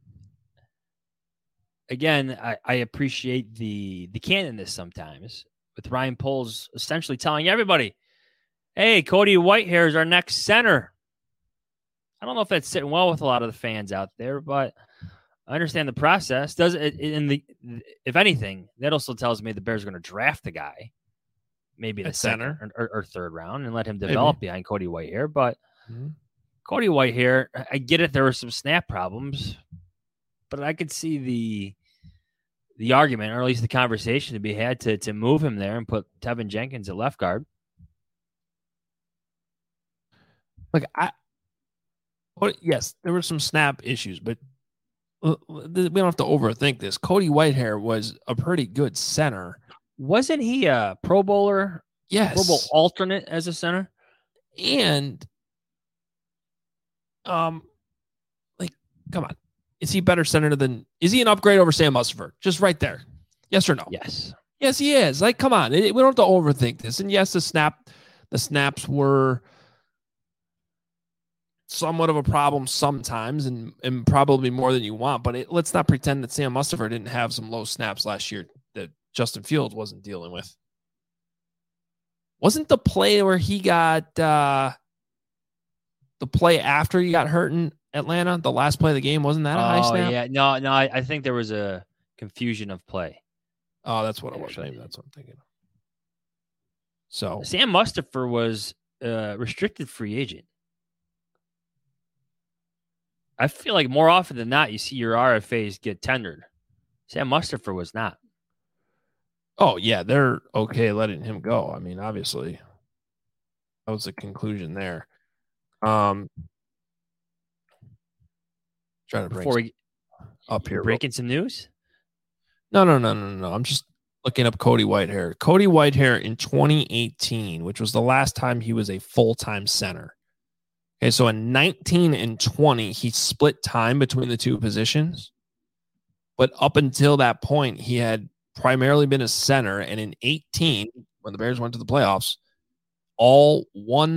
Again, I appreciate the candidness sometimes with Ryan Poles essentially telling everybody, hey, Cody Whitehair is our next center. I don't know if that's sitting well with a lot of the fans out there, but I understand the process. If anything, that also tells me the Bears are going to draft the guy, maybe the center or third round, and let him develop behind Cody Whitehair. But Cody Whitehair, I get it. There were some snap problems. But I could see the argument, or at least the conversation to be had to move him there and put Tevin Jenkins at left guard. Yes, there were some snap issues, but we don't have to overthink this. Cody Whitehair was a pretty good center. Wasn't he a Pro Bowler? Yes. Pro Bowl alternate as a center? And come on. Is he better center than? Is he an upgrade over Sam Mustipher? Just right there. Yes or no? Yes. Yes, he is. Like, come on. We don't have to overthink this. And yes, the snaps were somewhat of a problem sometimes, and probably more than you want. But let's not pretend that Sam Mustipher didn't have some low snaps last year that Justin Fields wasn't dealing with. Wasn't the play where he got the play after he got hurt in Atlanta, the last play of the game, wasn't that a high snap? Yeah. No, I think there was a confusion of play. Oh, that's what it was. Maybe that's what I'm thinking. So Sam Mustipher was a restricted free agent. I feel like more often than not, you see your RFAs get tendered. Sam Mustipher was not. Oh, yeah, they're okay letting him go. I mean, obviously, that was the conclusion there. Trying to bring up here. Breaking some news? No. I'm just looking up Cody Whitehair. Cody Whitehair in 2018, which was the last time he was a full-time center. Okay, so in 19 and 20, he split time between the two positions. But up until that point, he had primarily been a center. And in 18, when the Bears went to the playoffs, all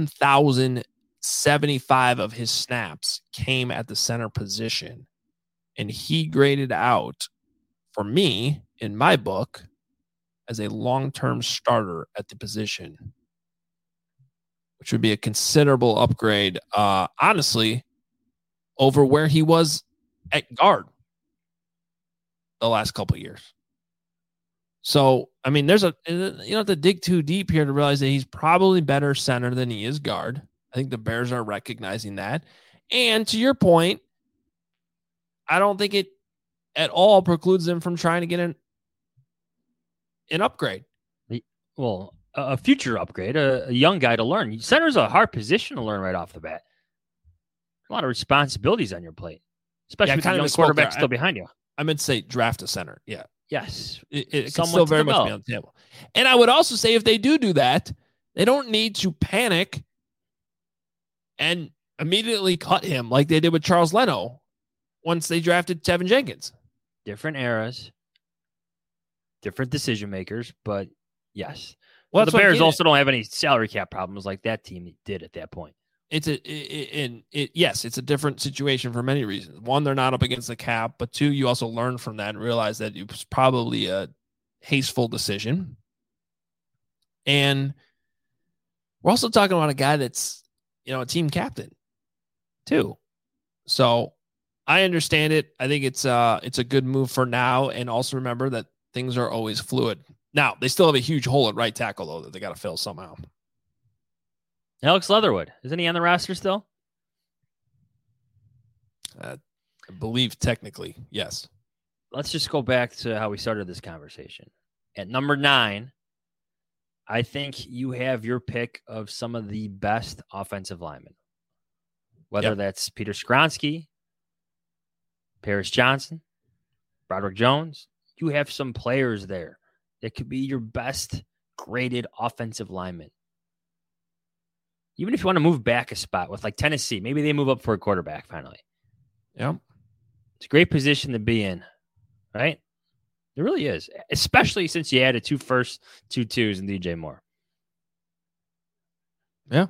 1,075 of his snaps came at the center position. And he graded out, for me, in my book, as a long-term starter at the position, which would be a considerable upgrade, honestly, over where he was at guard the last couple of years. So, I mean, you don't have to dig too deep here to realize that he's probably better center than he is guard. I think the Bears are recognizing that. And to your point, I don't think it at all precludes them from trying to get an upgrade. Well, a future upgrade, a young guy to learn. Center's a hard position to learn right off the bat. A lot of responsibilities on your plate, especially with the young quarterback still behind you. I meant to say draft a center. Yeah. Yes. It can still very much be on the table. And I would also say if they do that, they don't need to panic and immediately cut him like they did with Charles Leno once they drafted Tevin Jenkins. Different eras, different decision makers, but yes. Well, the Bears also don't have any salary cap problems like that team did at that point. Yes, it's a different situation for many reasons. One, they're not up against the cap, but two, you also learn from that and realize that it was probably a hasteful decision. And we're also talking about a guy that's, a team captain too. So I understand it. I think it's a good move for now. And also remember that things are always fluid. Now, they still have a huge hole at right tackle, though, that they got to fill somehow. Alex Leatherwood. Isn't he on the roster still? I believe technically, yes. Let's just go back to how we started this conversation. At number 9, I think you have your pick of some of the best offensive linemen. Whether that's Peter Skoronski, Paris Johnson, Broderick Jones. You have some players there that could be your best graded offensive lineman. Even if you want to move back a spot with like Tennessee, maybe they move up for a quarterback finally. Yeah. It's a great position to be in, right? It really is, especially since you added 2 firsts, 2 2s, and DJ Moore. Yeah.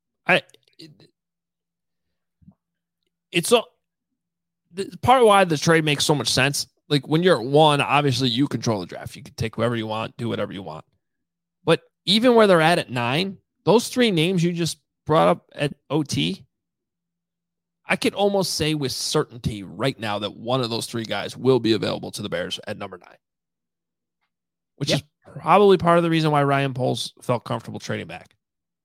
It's part of why the trade makes so much sense. Like when you're at 1, obviously you control the draft. You can take whoever you want, do whatever you want. But even where they're at 9, those 3 names you just brought up at OT, I could almost say with certainty right now that one of those 3 guys will be available to the Bears at number 9, which is probably part of the reason why Ryan Poles felt comfortable trading back.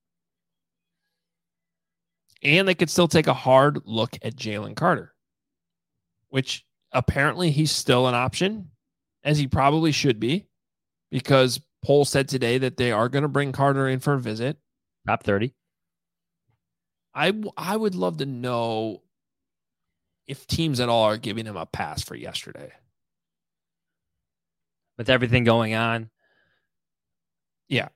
And they could still take a hard look at Jalen Carter, which apparently he's still an option, as he probably should be, because Poles said today that they are going to bring Carter in for a visit. Top 30. I would love to know if teams at all are giving him a pass for yesterday. With everything going on. Yeah.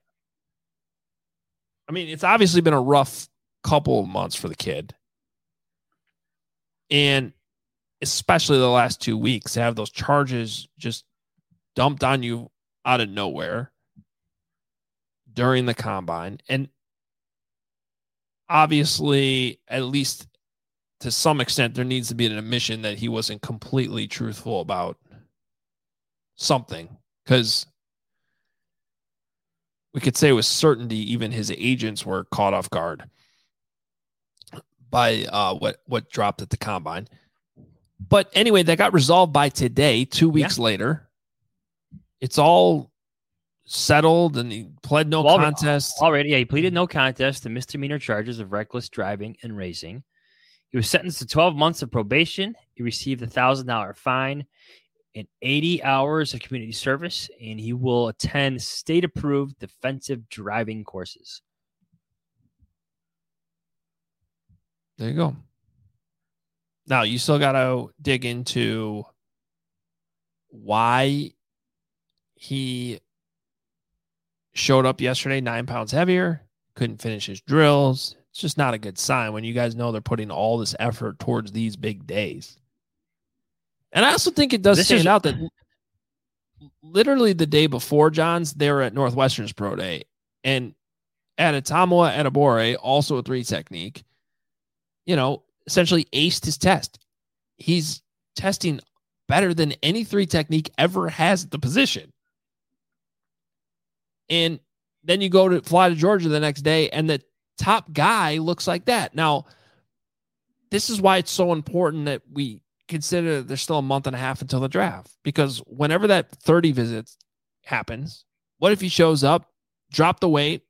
I mean, it's obviously been a rough couple of months for the kid. And especially the last 2 weeks, to have those charges just dumped on you out of nowhere during the combine. And obviously, at least to some extent, there needs to be an admission that he wasn't completely truthful about something, because we could say with certainty even his agents were caught off guard by what dropped at the combine. But anyway, that got resolved by today, 2 weeks later. It's all settled, and he pled no contest. Already, he pleaded no contest to misdemeanor charges of reckless driving and racing. He was sentenced to 12 months of probation. He received a $1,000 fine and 80 hours of community service, and he will attend state-approved defensive driving courses. There you go. Now, you still got to dig into why he showed up yesterday 9 pounds heavier, couldn't finish his drills. It's just not a good sign when you guys know they're putting all this effort towards these big days. And I also think it does stand out that literally the day before John's, they were at Northwestern's Pro Day, and Adetomowa Adebawore, also a 3 technique, essentially aced his test. He's testing better than any 3 technique ever has at the position. And then you fly to Georgia the next day, and the top guy looks like that. Now, this is why it's so important that we consider that there's still a month and a half until the draft, because whenever that 30 visits happens, what if he shows up, drop the weight,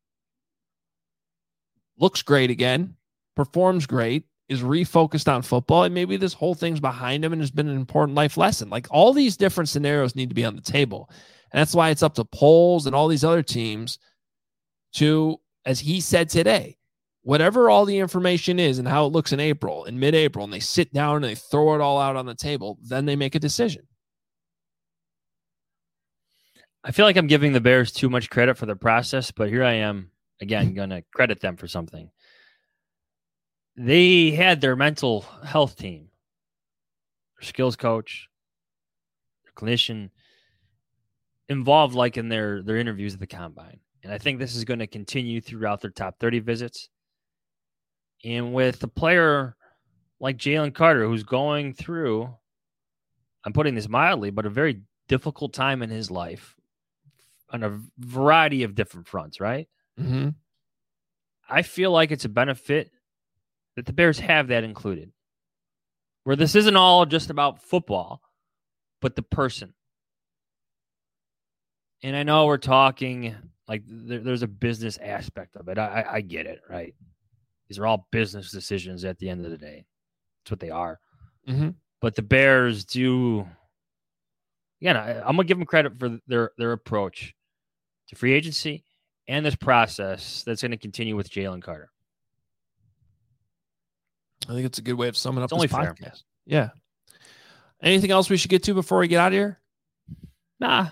looks great again, performs great, is refocused on football, and maybe this whole thing's behind him and has been an important life lesson. Like, all these different scenarios need to be on the table. And that's why it's up to Poles and all these other teams to, as he said today, whatever all the information is and how it looks in mid-April, and they sit down and they throw it all out on the table, then they make a decision. I feel like I'm giving the Bears too much credit for the process, but here I am, again, going to credit them for something. They had their mental health team, their skills coach, their clinician involved, like in their interviews at the combine. And I think this is going to continue throughout their top 30 visits. And with a player like Jalen Carter, who's going through, I'm putting this mildly, but a very difficult time in his life on a variety of different fronts, right? Mm-hmm. I feel like it's a benefit that the Bears have that included, where this isn't all just about football, but the person. And I know we're talking like there's a business aspect of it. I get it, right? These are all business decisions at the end of the day. That's what they are. Mm-hmm. But the Bears do, again, I'm going to give them credit for their approach to free agency and this process that's going to continue with Jalen Carter. I think it's a good way of summing up it's this only podcast. Fair. Yeah. Anything else we should get to before we get out of here? Nah.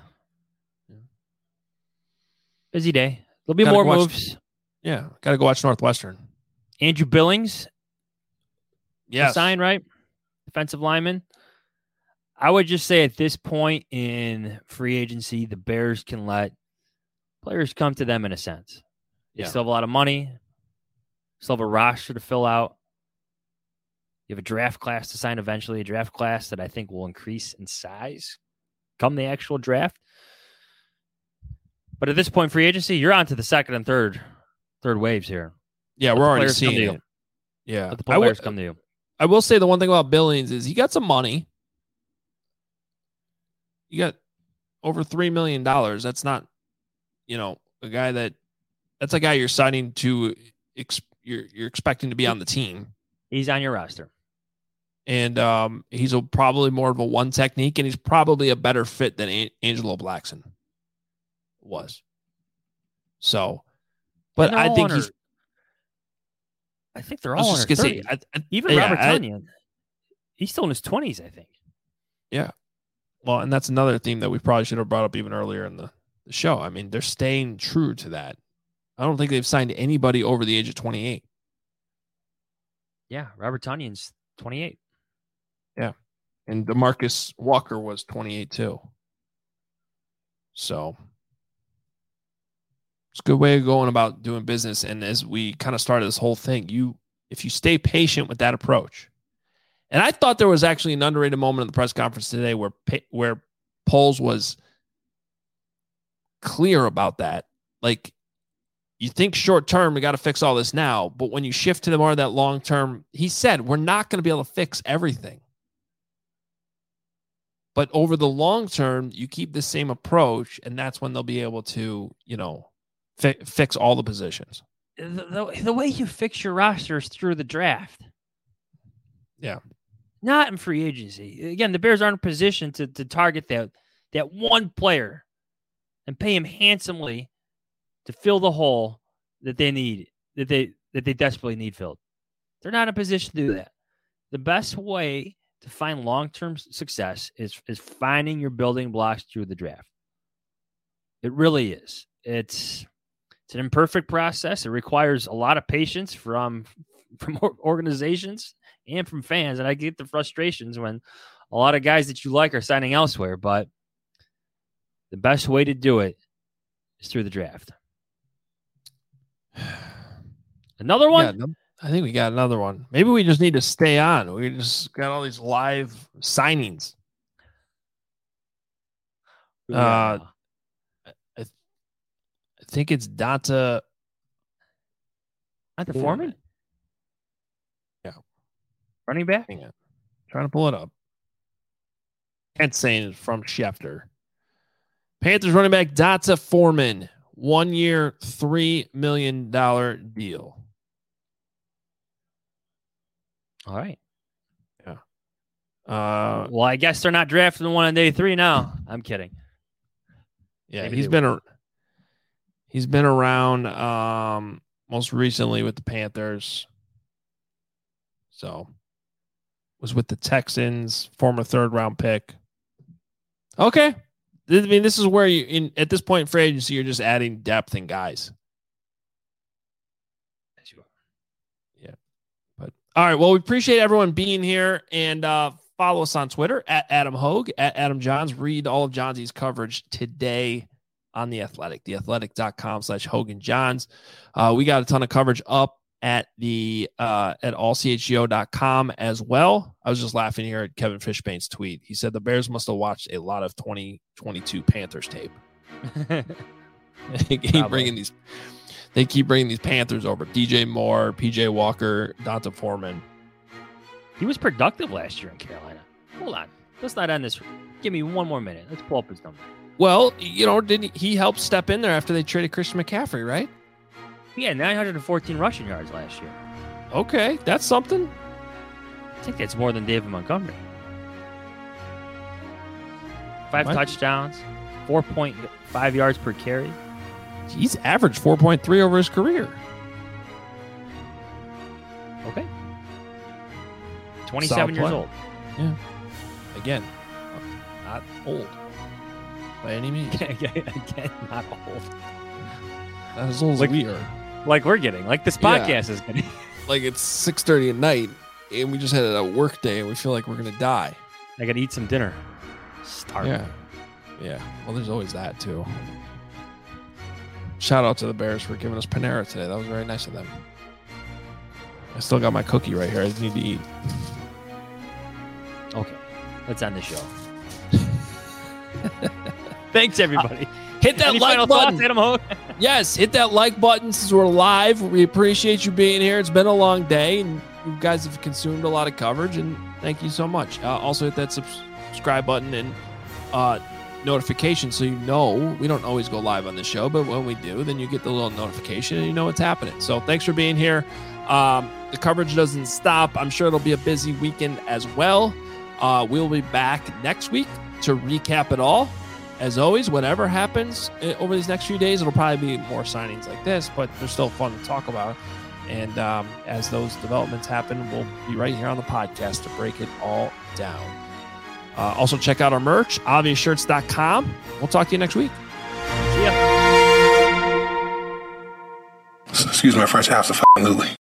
Busy day. There'll be more moves. Yeah. Got to go watch Northwestern. Andrew Billings. Yes. Sign, right? Defensive lineman. I would just say at this point in free agency, the Bears can let players come to them in a sense. They still have a lot of money. Still have a roster to fill out. You have a draft class to sign eventually, a draft class that I think will increase in size come the actual draft. But at this point, free agency, you're on to the second and third waves here. Yeah, we're already seeing it. Yeah. Let the players come to you. I will say the one thing about Billings is he got some money. You got over $3 million. That's not, a guy that's a guy you're signing to, you're expecting to be on the team. He's on your roster. And he's probably more of a one technique, and he's probably a better fit than Angelo Blackson was. So, but I think they're all under 30. Even Robert Tonyan, he's still in his 20s, I think. Yeah. Well, and that's another theme that we probably should have brought up even earlier in the show. I mean, they're staying true to that. I don't think they've signed anybody over the age of 28. Yeah, Robert Tonyan's 28. Yeah. And DeMarcus Walker was 28 too. So it's a good way of going about doing business. And as we kind of started this whole thing, if you stay patient with that approach. And I thought there was actually an underrated moment in the press conference today where Poles was clear about that. Like, you think short term, we got to fix all this now. But when you shift to the more of that long term, he said, we're not going to be able to fix everything. But over the long term, you keep the same approach, and that's when they'll be able to, fix all the positions. The way you fix your roster is through the draft. Yeah. Not in free agency. Again, the Bears aren't in a position to target that one player and pay him handsomely to fill the hole that they need, that they desperately need filled. They're not in a position to do that. The best way to find long-term success is finding your building blocks through the draft. It really is. It's an imperfect process. It requires a lot of patience from organizations and from fans. And I get the frustrations when a lot of guys that you like are signing elsewhere, but the best way to do it is through the draft. Another one? Yeah, I think we got another one. Maybe we just need to stay on. We just got all these live signings. I think it's Donta Foreman? Yeah. Running back? Hang on. Trying to pull it up. Can't say it from Schefter. Panthers running back Donta Foreman. 1 year, $3 million deal. All right. Yeah. Well, I guess they're not drafting one on day 3 now. I'm kidding. Yeah, he's been around most recently with the Panthers. So was with the Texans, former 3rd round pick. Okay. I mean, this is where at this point in free agency, you're just adding depth and guys. Yeah. But all right. Well, we appreciate everyone being here, and follow us on Twitter at Adam Hogue, at Adam Johns. Read all of Johnsy's coverage today on The Athletic, theathletic.com/HoganJohns. We got a ton of coverage up at allchgo.com as well. I was just laughing here at Kevin Fishbane's tweet. He said the Bears must have watched a lot of 2022 Panthers tape. They keep bringing these Panthers over. DJ Moore, PJ Walker, Donta Foreman. He was productive last year in Carolina. Hold on. Let's not end this. Give me one more minute. Let's pull up his number. Well, didn't he help step in there after they traded Christian McCaffrey, right? He had 914 rushing yards last year. Okay, that's something. I think that's more than David Montgomery. 5 touchdowns, 4.5 yards per carry. He's averaged 4.3 over his career. Okay. 27 years old. Yeah. Again, not old by any means. Again, not old. Not as old as we are. Like we're getting. Like this podcast is getting. Like it's 6:30 at night, and we just had a work day, and we feel like we're going to die. I got to eat some dinner. Starving. Yeah. Well, there's always that, too. Shout out to the Bears for giving us Panera today. That was very nice of them. I still got my cookie right here. I just need to eat. Okay. Let's end the show. Thanks, everybody. Hit that like button. Adam Hogue? Yes, hit that like button since we're live. We appreciate you being here. It's been a long day, and you guys have consumed a lot of coverage, and thank you so much. Also, hit that subscribe button and notification so you know we don't always go live on the show, but when we do, then you get the little notification and you know what's happening. So thanks for being here. The coverage doesn't stop. I'm sure it'll be a busy weekend as well. We'll be back next week to recap it all. As always, whatever happens over these next few days, it'll probably be more signings like this, but they're still fun to talk about. And as those developments happen, we'll be right here on the podcast to break it all down. Also, check out our merch, obviousshirts.com. We'll talk to you next week. See ya. Excuse my French, absolutely.